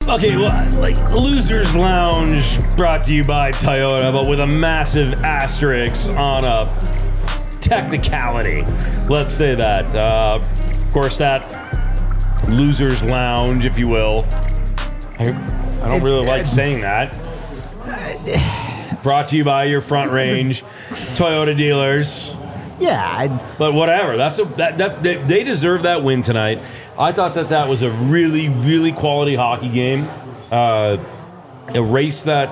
Okay, well, like Losers Lounge brought to you by Toyota, but with a massive asterisk on a technicality. Let's say that. Of course, that Losers Lounge, if you will. I don't really like saying that. Brought to you by your Front Range Toyota dealers. Yeah, but whatever. They deserve that win tonight. I thought that was a really, really quality hockey game. Erase that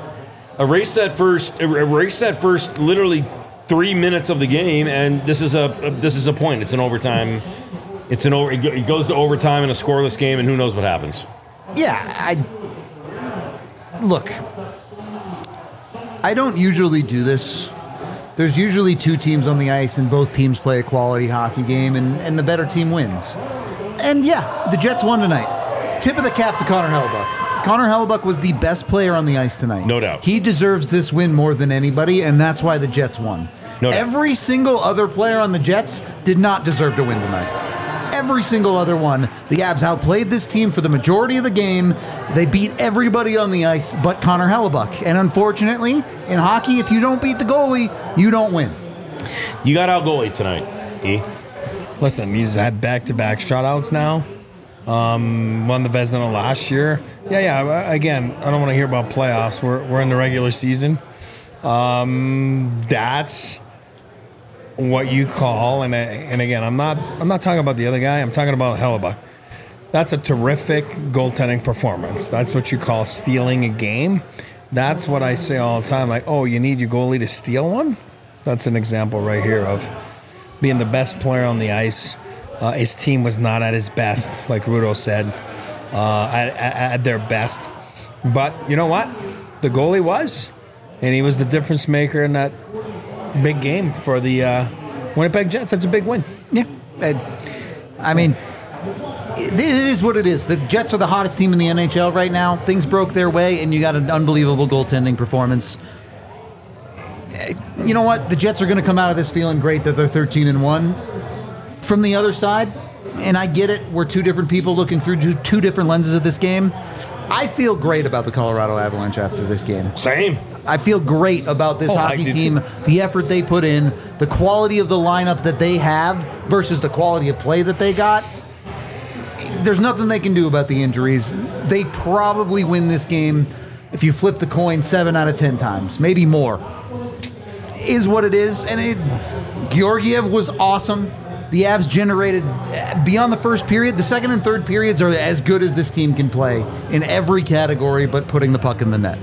first literally 3 minutes of the game, and this is a point. It's an overtime. It goes to overtime in a scoreless game, and who knows what happens. Yeah, look. I don't usually do this. There's usually two teams on the ice, and both teams play a quality hockey game, and the better team wins. And yeah, the Jets won tonight. Tip of the cap to Connor Hellebuyck. Connor Hellebuyck was the best player on the ice tonight. No doubt. He deserves this win more than anybody, and that's why the Jets won. No doubt. Every single other player on the Jets did not deserve to win tonight. Every single other one. The Avs outplayed this team for the majority of the game. They beat everybody on the ice but Connor Hellebuyck. And unfortunately, in hockey, if you don't beat the goalie, you don't win. You got out goalie tonight, E. Listen, he's had back-to-back shutouts now. Won the Vezina last year. Yeah. Again, I don't want to hear about playoffs. We're in the regular season. That's what you call, and again, I'm not talking about the other guy. I'm talking about Hellebuyck. That's a terrific goaltending performance. That's what you call stealing a game. That's what I say all the time. Like, oh, you need your goalie to steal one? That's an example right here of being the best player on the ice. His team was not at his best, like Rudo said, at their best. But you know what? The goalie was, and he was the difference maker in that big game for the Winnipeg Jets. That's a big win. Yeah. I mean, it is what it is. The Jets are the hottest team in the NHL right now. Things broke their way, and you got an unbelievable goaltending performance. You know what? The Jets are going to come out of this feeling great that they're 13-1. From the other side, and I get it, we're two different people looking through two different lenses of this game. I feel great about the Colorado Avalanche after this game. Same. I feel great about this hockey team, the effort they put in, the quality of the lineup that they have versus the quality of play that they got. There's nothing they can do about the injuries. They probably win this game if you flip the coin 7 out of 10 times, maybe more. Is what it is, and Georgiev was awesome. The Avs generated, beyond the first period, the second and third periods are as good as this team can play in every category but putting the puck in the net.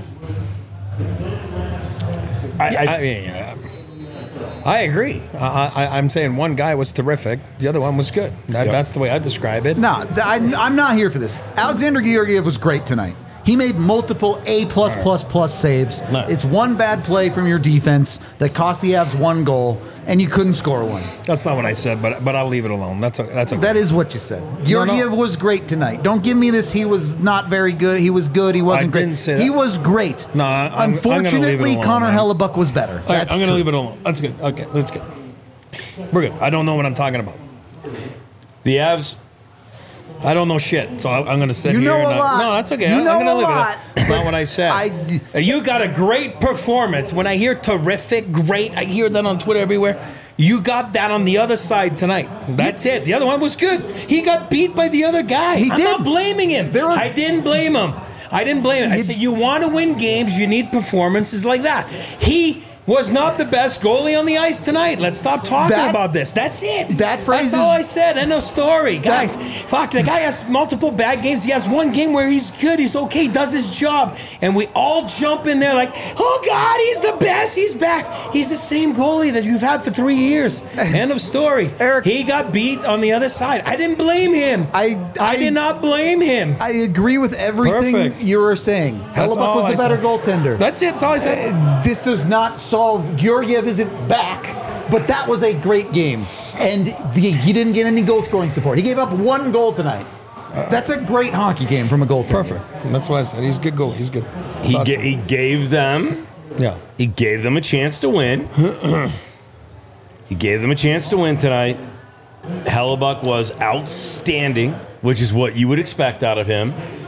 I agree. I'm saying one guy was terrific. The other one was good. That's the way I describe it. No, I'm not here for this. Alexander Georgiev was great tonight. He made multiple A+++ saves. Nice. It's one bad play from your defense that cost the Avs one goal, and you couldn't score one. That's not what I said, but I'll leave it alone. That's okay. That is what you said. Georgiev was great tonight. Don't give me this. He was not very good. He was good. He wasn't great. I didn't say that. He was great. No, I'm unfortunately, gonna leave it alone, Connor man. Hellebuyck was better. All right, I'm going to leave it alone. That's good. Okay, that's good. We're good. I don't know what I'm talking about. The Avs. I don't know shit, so I'm going to sit You here. know a lot. No, that's okay. You I'm know going to a leave lot. it. That's not what I said. You got a great performance. When I hear terrific, great, I hear that on Twitter everywhere. You got that on the other side tonight. That's it. The other one was good. He got beat by the other guy. I'm not blaming him. I didn't blame him. I said, you want to win games, you need performances like that. He was not the best goalie on the ice tonight. Let's stop talking about this. That's it. That's all I said. End of story. Guys, fuck, the guy has multiple bad games. He has one game where he's good, he's okay, does his job. And we all jump in there like, oh, God, he's the best. He's back. He's the same goalie that you've had for 3 years. End of story. Eric, he got beat on the other side. I didn't blame him. I did not blame him. I agree with everything you were saying. Hellebuyck was the better goaltender. That's it. That's all I said. This does not solve. Georgiev isn't back, but that was a great game. And he didn't get any goal scoring support. He gave up one goal tonight. That's a great hockey game from a goaltender. Perfect. That's why I said he's a good goalie. He's good. He gave them. Yeah. He gave them a chance to win. He gave them a chance to win tonight. Hellebuyck was outstanding, which is what you would expect out of him.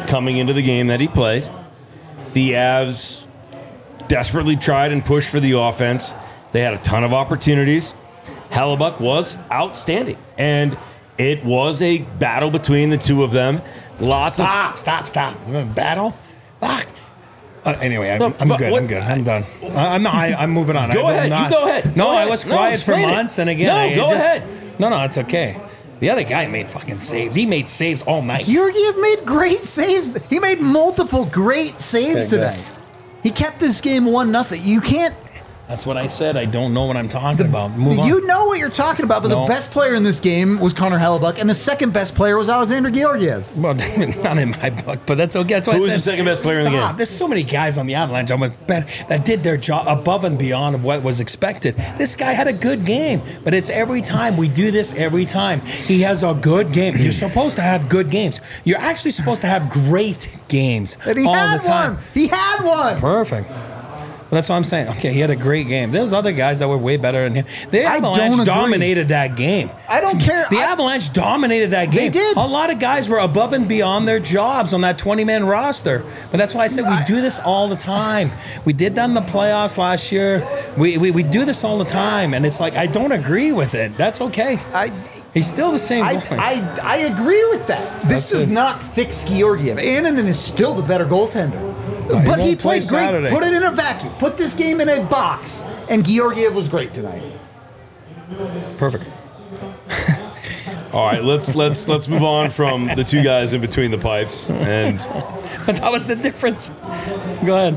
coming into the game that he played. The Avs desperately tried and pushed for the offense. They had a ton of opportunities. Hellebuyck was outstanding, and it was a battle between the two of them. Stop. Isn't it a battle? Fuck. Anyway, I'm good. I'm done. I'm moving on. Go ahead. You go ahead. No, go I ahead. was quiet for months, and again, go ahead. No, it's okay. The other guy made fucking saves. He made saves all night. Georgiev made great saves. He made multiple great saves tonight. He kept this game 1-0. You can't. That's what I said. I don't know what I'm talking about. Move on. You know what you're talking about, but the best player in this game was Connor Hellebuyck, and the second best player was Alexander Georgiev. Well, not in my book, but that's okay. That's why Who was the second best player in the game? There's so many guys on the Avalanche that did their job above and beyond of what was expected. This guy had a good game, but it's every time. We do this every time. He has a good game. You're supposed to have good games. You're actually supposed to have great games all the time. He had one. Perfect. Well, that's what I'm saying. Okay, he had a great game. There was other guys that were way better than him. The Avalanche dominated that game. I don't care. The Avalanche dominated that game. They did. A lot of guys were above and beyond their jobs on that 20-man roster. But that's why I said we do this all the time. We did that in the playoffs last year. We do this all the time, and it's like I don't agree with it. That's okay. He's still the same guy. I agree with that. This does not fix Georgiev. Annunen is still the better goaltender. But he played great. Saturday. Put it in a vacuum. Put this game in a box. And Georgiev was great tonight. Perfect. All right, let's move on from the two guys in between the pipes. And that was the difference. Go ahead.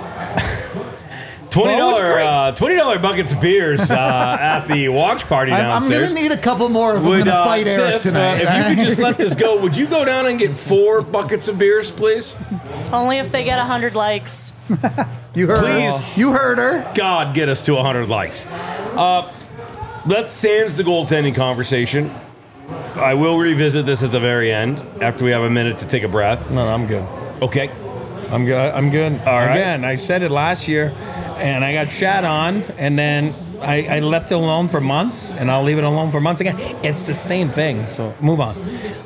$20 buckets of beers at the watch party downstairs. I'm going to need a couple more if I'm going to fight Eric tonight. If you could just let this go, would you go down and get 4 buckets of beers, please? Only if they get 100 likes. You heard Please. her. You heard her. God, get us to 100 likes. Let's sans the goaltending conversation. I will revisit this at the very end after we have a minute to take a breath. No, I'm good. Okay. I'm good. All right. Again, I said it last year, and I got shat on, and then I left it alone for months, and I'll leave it alone for months again. It's the same thing, so move on.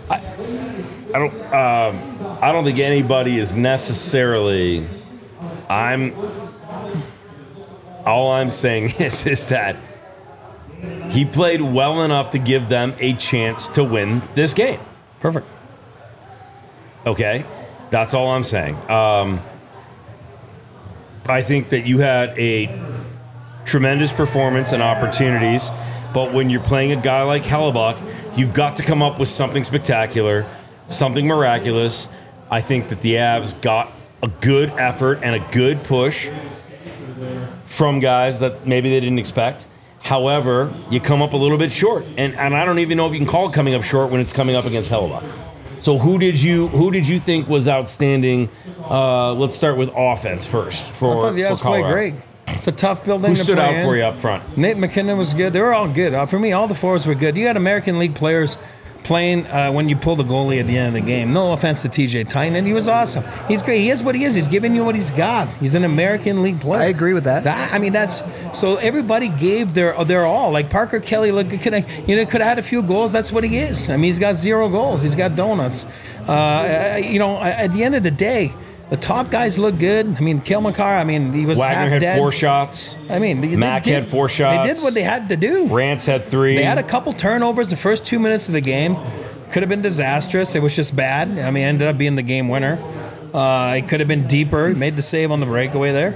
I don't think anybody is necessarily. All I'm saying is that he played well enough to give them a chance to win this game. Perfect. Okay, that's all I'm saying. I think that you had a tremendous performance and opportunities, but when you're playing a guy like Hellebuyck, you've got to come up with something spectacular, something miraculous. I think that the Avs got a good effort and a good push from guys that maybe they didn't expect. However, you come up a little bit short, and I don't even know if you can call it coming up short when it's coming up against Hellebuyck. So who did you think was outstanding? Let's start with offense first. I thought the Avs played great. It's a tough building. Who to stood play out in. for you up front? Nate McKinnon was good. They were all good. For me, all the forwards were good. You had American League players playing when you pull the goalie at the end of the game. No offense to TJ Tynan. He was awesome. He's great. He is what he is. He's giving you what he's got. He's an American League player. I agree with that. That's so everybody gave their all. Like Parker Kelly, could have had a few goals. That's what he is. I mean, he's got 0 goals. He's got donuts. At the end of the day, the top guys look good. I mean, Cale Makar, he was Wagner half had dead. 4 shots. Mack had 4 shots. They did what they had to do. Rance had 3. They had a couple turnovers the first 2 minutes of the game. Could have been disastrous. It was just bad. Ended up being the game winner. It could have been deeper. Made the save on the breakaway there.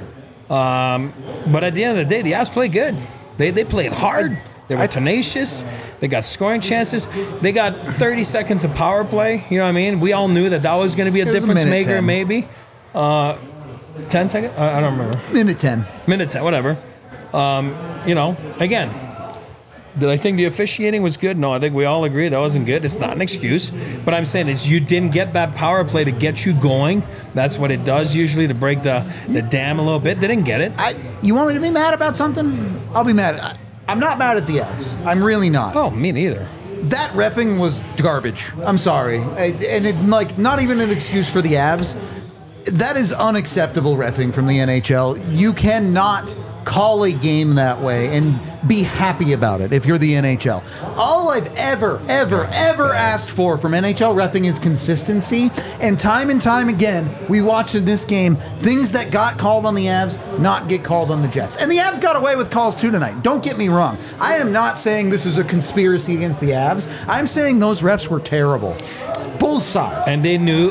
But at the end of the day, the Avs played good. They played hard. They were tenacious. They got scoring chances. They got 30 seconds of power play. You know what I mean? We all knew that was going to be a difference maker, 10. maybe. 10 seconds? I don't remember. Minute 10. Minute 10, whatever. Again, did I think the officiating was good? No, I think we all agree that wasn't good. It's not an excuse. But I'm saying is you didn't get that power play to get you going. That's what it does usually to break the dam a little bit. They didn't get it. You want me to be mad about something? I'll be mad. I'm not mad at the Avs. I'm really not. Oh, me neither. That reffing was garbage. I'm sorry. And not even an excuse for the Avs. That is unacceptable reffing from the NHL. You cannot call a game that way and be happy about it if you're the NHL. All I've ever asked for from NHL reffing is consistency, and time again, we watched in this game things that got called on the Avs not get called on the Jets. And the Avs got away with calls too tonight. Don't get me wrong. I am not saying this is a conspiracy against the Avs. I'm saying those refs were terrible. Both sides. And they knew,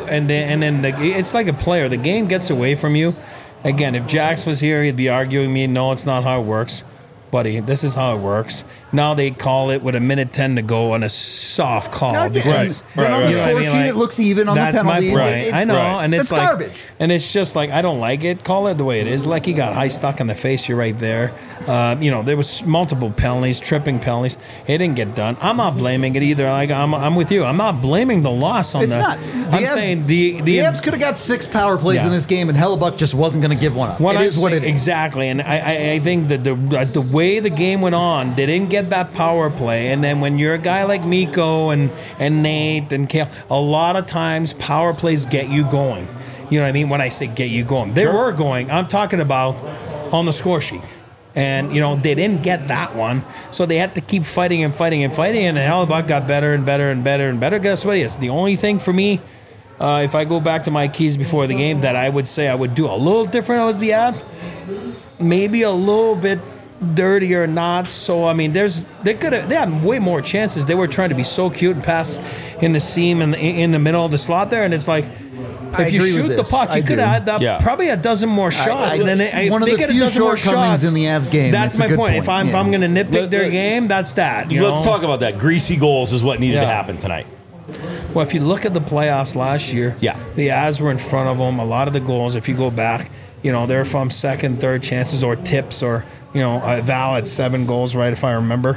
it's like a player. The game gets away from you. Again, if Jax was here, he'd be arguing me, no, it's not how it works. Buddy, this is how it works. Now they call it with a minute 10 to go on a soft call. Then on the score sheet, it looks even on the penalties. I know, and it's like, garbage. And it's just like, I don't like it. Call it the way it is. Like he got high stuck in the face. You're right there. There was multiple penalties, tripping penalties. It didn't get done. I'm not blaming it either. Like I'm with you. I'm not blaming the loss on it's not. I'm saying the Avs could have got 6 power plays in this game, and Hellebuck just wasn't going to give one up. It is what it is. Exactly, and I think that as the way the game went on, they didn't get that power play, and then when you're a guy like Mikko and Nate and Kale, a lot of times power plays get you going. You know what I mean? When I say get you going, they were going. I'm talking about on the score sheet. And, they didn't get that one, so they had to keep fighting, and Hellebuck got better and better. Guess what? Yes, the only thing for me, if I go back to my keys before the game, that I would say I would do a little different was the Avs. Maybe a little bit dirtier, not so. I mean, they had way more chances. They were trying to be so cute and pass in the seam and in the middle of the slot there, and it's like, if you shoot the puck, you could have had probably a dozen more shots. And then one of the few shortcomings in the Avs game. That's my point. If I'm going to nitpick their game, that's that. Let's talk about that. Greasy goals is what needed to happen tonight. Well, if you look at the playoffs last year, the Avs were in front of them. A lot of the goals, if you go back, they're from second, third chances or tips or, Val had 7 goals, right, if I remember.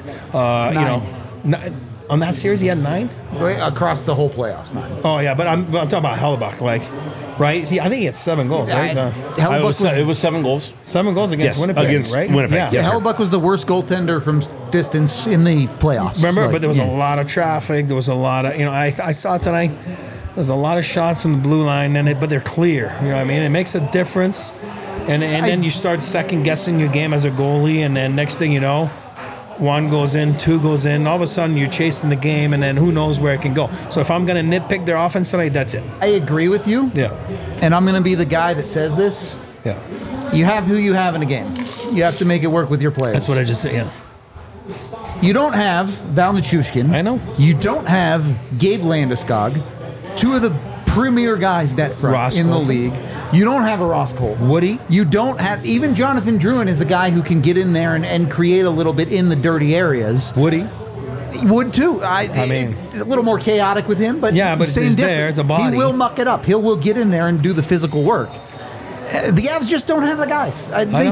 9. On that series, he had 9? Across the whole playoffs, 9. Oh, yeah, but I'm talking about Hellebuck, right? See, I think he had 7 goals, right? It was 7 goals. 7 goals against Winnipeg, right? Winnipeg, yeah. Hellebuck was the worst goaltender from distance in the playoffs. Remember, but there was a lot of traffic. There was a lot of, I saw tonight, there's a lot of shots from the blue line, but they're clear. You know what I mean? It makes a difference. And then you start second-guessing your game as a goalie, and then next thing you know, 1 goes in, 2 goes in. All of a sudden, you're chasing the game, and then who knows where it can go. So if I'm going to nitpick their offense tonight, that's it. I agree with you. Yeah. And I'm going to be the guy that says this. Yeah. You have who you have in a game. You have to make it work with your players. That's what I just said, yeah. You don't have Val Nichushkin. I know. You don't have Gabe Landeskog, 2 of the premier guys net front Ross in Colton. the league. You don't have a Ross Colton. Woody. You don't have, even Jonathan Drouin is a guy who can get in there and create a little bit in the dirty areas. Woody. He would too. I mean, it's a little more chaotic with him, but yeah, but same it's difference. there. It's a body. He will muck it up. He will get in there and do the physical work. The Avs just don't have the guys.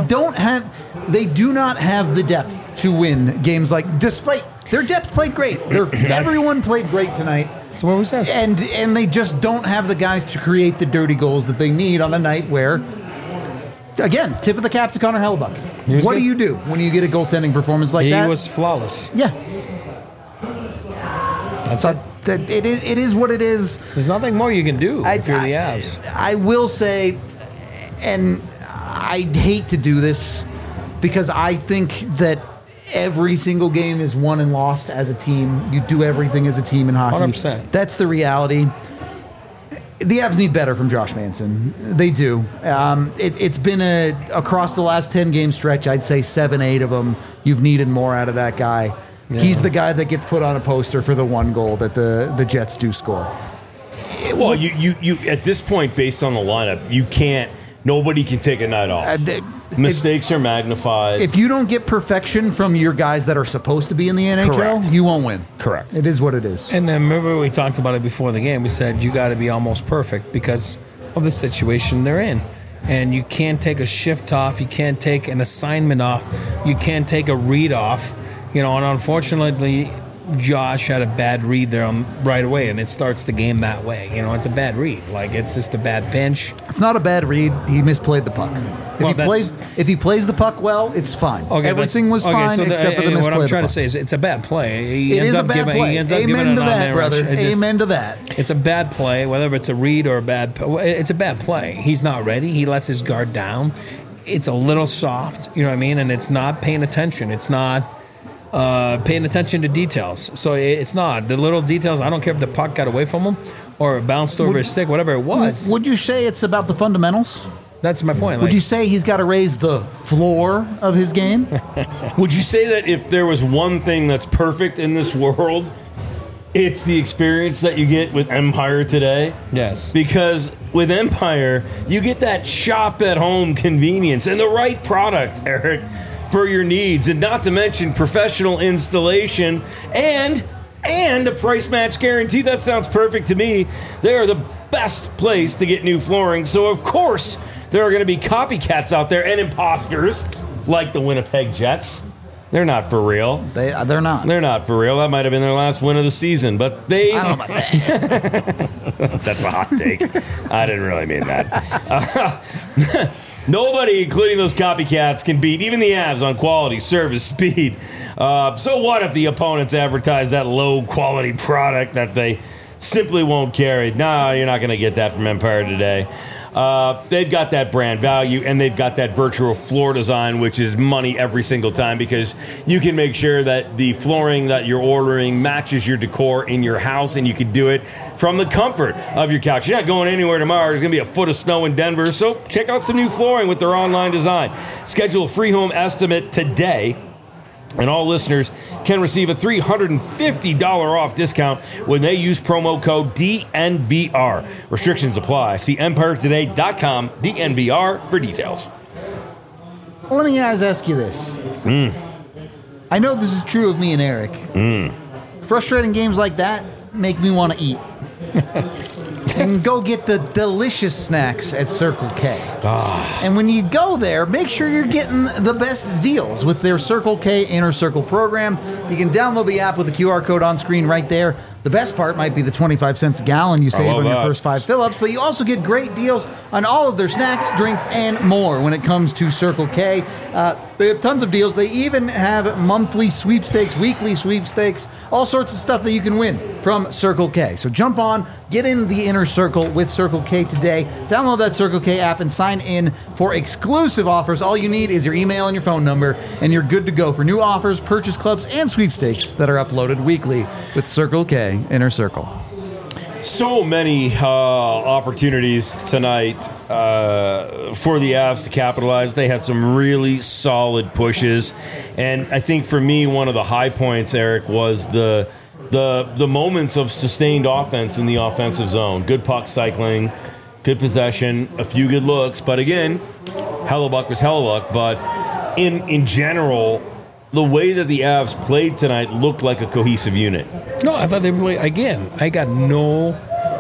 They do not have the depth to win games like. Despite their depth played great. Everyone played great tonight. That's what we said. And they just don't have the guys to create the dirty goals that they need on a night where, again, tip of the cap to Connor Hellebuck. What do you do when you get a goaltending performance like that? He was flawless. Yeah. That's it. It is what it is. There's nothing more you can do if you're the Avs. I will say, and I hate to do this because I think that every single game is won and lost as a team. You do everything as a team in hockey. 100%. That's the reality. The Avs need better from Josh Manson. They do. It's been across the last 10-game stretch, I'd say 7-8 of them, you've needed more out of that guy. Yeah. He's the guy that gets put on a poster for the 1 goal that the Jets do score. Well, you at this point, based on the lineup, nobody can take a night off. Mistakes are magnified. If you don't get perfection from your guys that are supposed to be in the NHL, Correct. You won't win. Correct. It is what it is. And then remember we talked about it before the game. We said you got to be almost perfect because of the situation they're in. And you can't take a shift off. You can't take an assignment off. You can't take a read off. And unfortunately, Josh had a bad read there right away, and it starts the game that way. It's a bad read. It's just a bad pinch. It's not a bad read. He misplayed the puck. If he plays the puck well, it's fine. Okay, everything was fine except for the misplay. What I'm trying to say is it's a bad play. It is a bad play. Amen to that, brother. Amen to that. It's a bad play, whether it's a read or a bad. It's a bad play. He's not ready. He lets his guard down. it's a little soft, you know what I mean? And it's not paying attention. It's not paying attention to details. So it's not. The little details, I don't care if the puck got away from him or bounced over his stick, whatever it was. Would you say it's about the fundamentals? That's my point. Would you say he's got to raise the floor of his game? Would you say that if there was one thing that's perfect in this world, it's the experience that you get with Empire today? Yes. Because with Empire, you get that shop-at-home convenience and the right product, Eric, for your needs. And not to mention professional installation and a price match guarantee. That sounds perfect to me. They are the best place to get new flooring. So, of course, there are going to be copycats out there and imposters like the Winnipeg Jets. They're not for real. They're not. They're not for real. That might have been their last win of the season, but they... I don't know about that. That's a hot take. I didn't really mean that. Nobody, including those copycats, can beat even the Avs on quality, service, speed. So what if the opponents advertise that low-quality product that they simply won't carry? No, you're not going to get that from Empire today. They've got that brand value, and they've got that virtual floor design, which is money every single time because you can make sure that the flooring that you're ordering matches your decor in your house, and you can do it from the comfort of your couch. You're not going anywhere tomorrow. There's going to be a foot of snow in Denver, so check out some new flooring with their online design. Schedule a free home estimate today, and all listeners can receive a $350 off discount when they use promo code DNVR. Restrictions apply. See EmpireToday.com, DNVR, for details. Well, let me ask you this. I know this is true of me and Eric. Frustrating games like that make me want to eat. And go get the delicious snacks at Circle K. And when you go there, make sure you're getting the best deals with their Circle K Inner Circle program. You can download the app with the QR code on screen right there. The best part might be the 25 cents a gallon you save on your first 5 fill-ups, but you also get great deals on all of their snacks, drinks, and more when it comes to Circle K. They have tons of deals. They even have monthly sweepstakes, weekly sweepstakes, all sorts of stuff that you can win from Circle K. So jump on, get in the Inner Circle with Circle K today. Download that Circle K app and sign in for exclusive offers. All you need is your email and your phone number, and you're good to go for new offers, purchase clubs, and sweepstakes that are uploaded weekly with Circle K Inner Circle. So many opportunities tonight for the Avs to capitalize. They had some really solid pushes, and I think for me, one of the high points, Eric, was the moments of sustained offense in the offensive zone. Good puck cycling, good possession, a few good looks, but again, Hellebuyck was Hellebuyck. But in general, the way that the Avs played tonight looked like a cohesive unit. No, I thought they played, again, I got no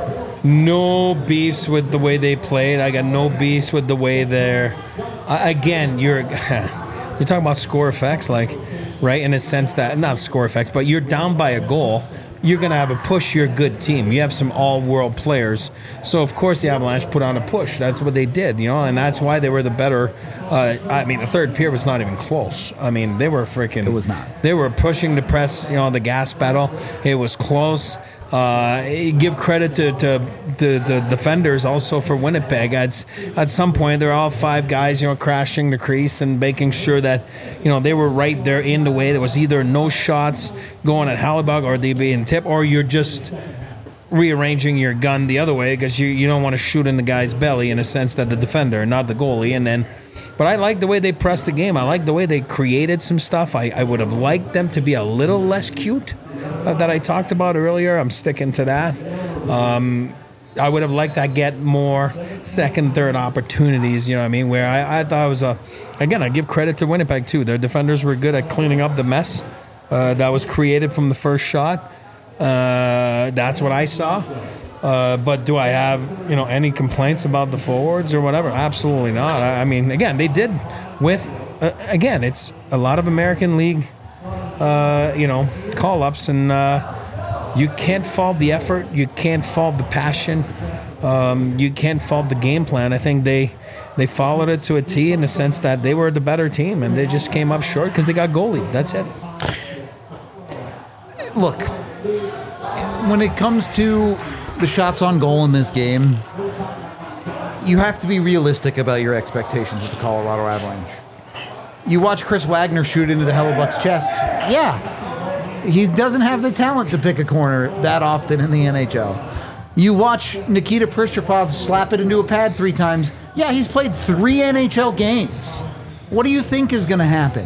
beefs with the way they played. I got no beefs with the way they're... again, you're talking about score effects, like, right, in a sense that, not score effects, but you're down by a goal. You're going to have a push. You're a good team. You have some all-world players. So, of course, the Avalanche put on a push. That's what they did, and that's why they were the better... the third period was not even close. I mean, they were freaking... It was not. They were pushing to press, the gas pedal. It was close. Give credit to the defenders also for Winnipeg. At some point, they're all 5 guys, crashing the crease and making sure that, they were right there in the way. There was either no shots going at Hellebuyck or they being tipped, or you're just rearranging your gun the other way because you don't want to shoot in the guy's belly in a sense that the defender, not the goalie. But I like the way they pressed the game. I like the way they created some stuff. I would have liked them to be a little less cute that I talked about earlier. I'm sticking to that. I would have liked to get more second, third opportunities, where I thought it was again, I give credit to Winnipeg too. Their defenders were good at cleaning up the mess that was created from the first shot. That's what I saw. But do I have, any complaints about the forwards or whatever? Absolutely not. I mean, again, they did with, again, it's a lot of American League, call-ups, and you can't fault the effort. You can't fault the passion. You can't fault the game plan. I think they followed it to a T in the sense that they were the better team, and they just came up short because they got goalied. That's it. Look, when it comes to the shots on goal in this game, you have to be realistic about your expectations with the Colorado Avalanche. You watch Chris Wagner shoot into the Hellebuck's chest. Yeah, he doesn't have the talent to pick a corner that often in the NHL. You watch Nikita Pristupov slap it into a pad 3 times. Yeah, he's played 3 NHL games. What do you think is going to happen?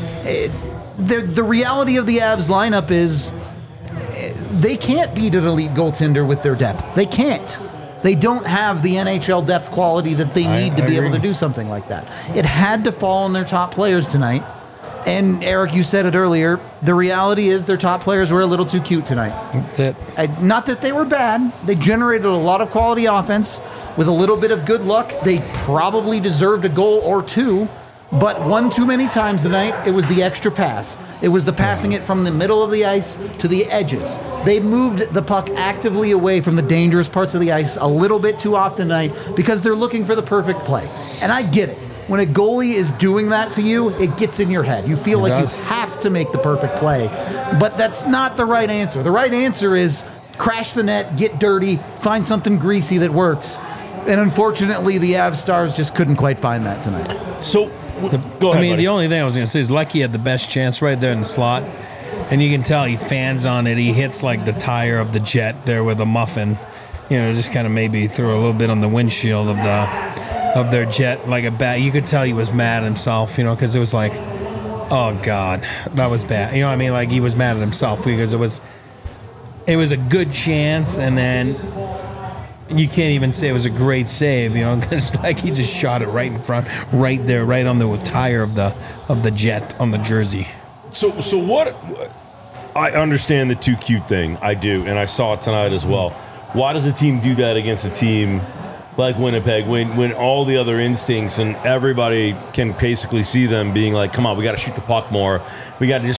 The reality of the Avs lineup is they can't beat an elite goaltender with their depth. They can't. They don't have the NHL depth quality that they need to be able to do something like that. It had to fall on their top players tonight. And Eric, you said it earlier, the reality is their top players were a little too cute tonight. That's it. Not that they were bad. They generated a lot of quality offense with a little bit of good luck. They probably deserved a goal or 2, but one too many times tonight, it was the extra pass. It was the passing it from the middle of the ice to the edges. They moved the puck actively away from the dangerous parts of the ice a little bit too often tonight because they're looking for the perfect play. And I get it. When a goalie is doing that to you, it gets in your head. You feel like you have to make the perfect play. But that's not the right answer. The right answer is crash the net, get dirty, find something greasy that works. And unfortunately, the Avs Stars just couldn't quite find that tonight. So, go ahead, buddy. The only thing I was going to say is Lecky had the best chance right there in the slot. And you can tell he fans on it. He hits like the tire of the jet there with a muffin. Just kind of maybe threw a little bit on the windshield of their jet like a bat. You could tell he was mad at himself, because it was like, oh God, that was bad. You know what I mean? Like he was mad at himself because it was a good chance, and then you can't even say it was a great save, because like he just shot it right in front, right there, right on the tire of the jet on the jersey. So what? I understand the too cute thing. I do, and I saw it tonight as well. Why does a team do that against a team like Winnipeg when all the other instincts and everybody can basically see them being like, come on, we got to shoot the puck more. We got to just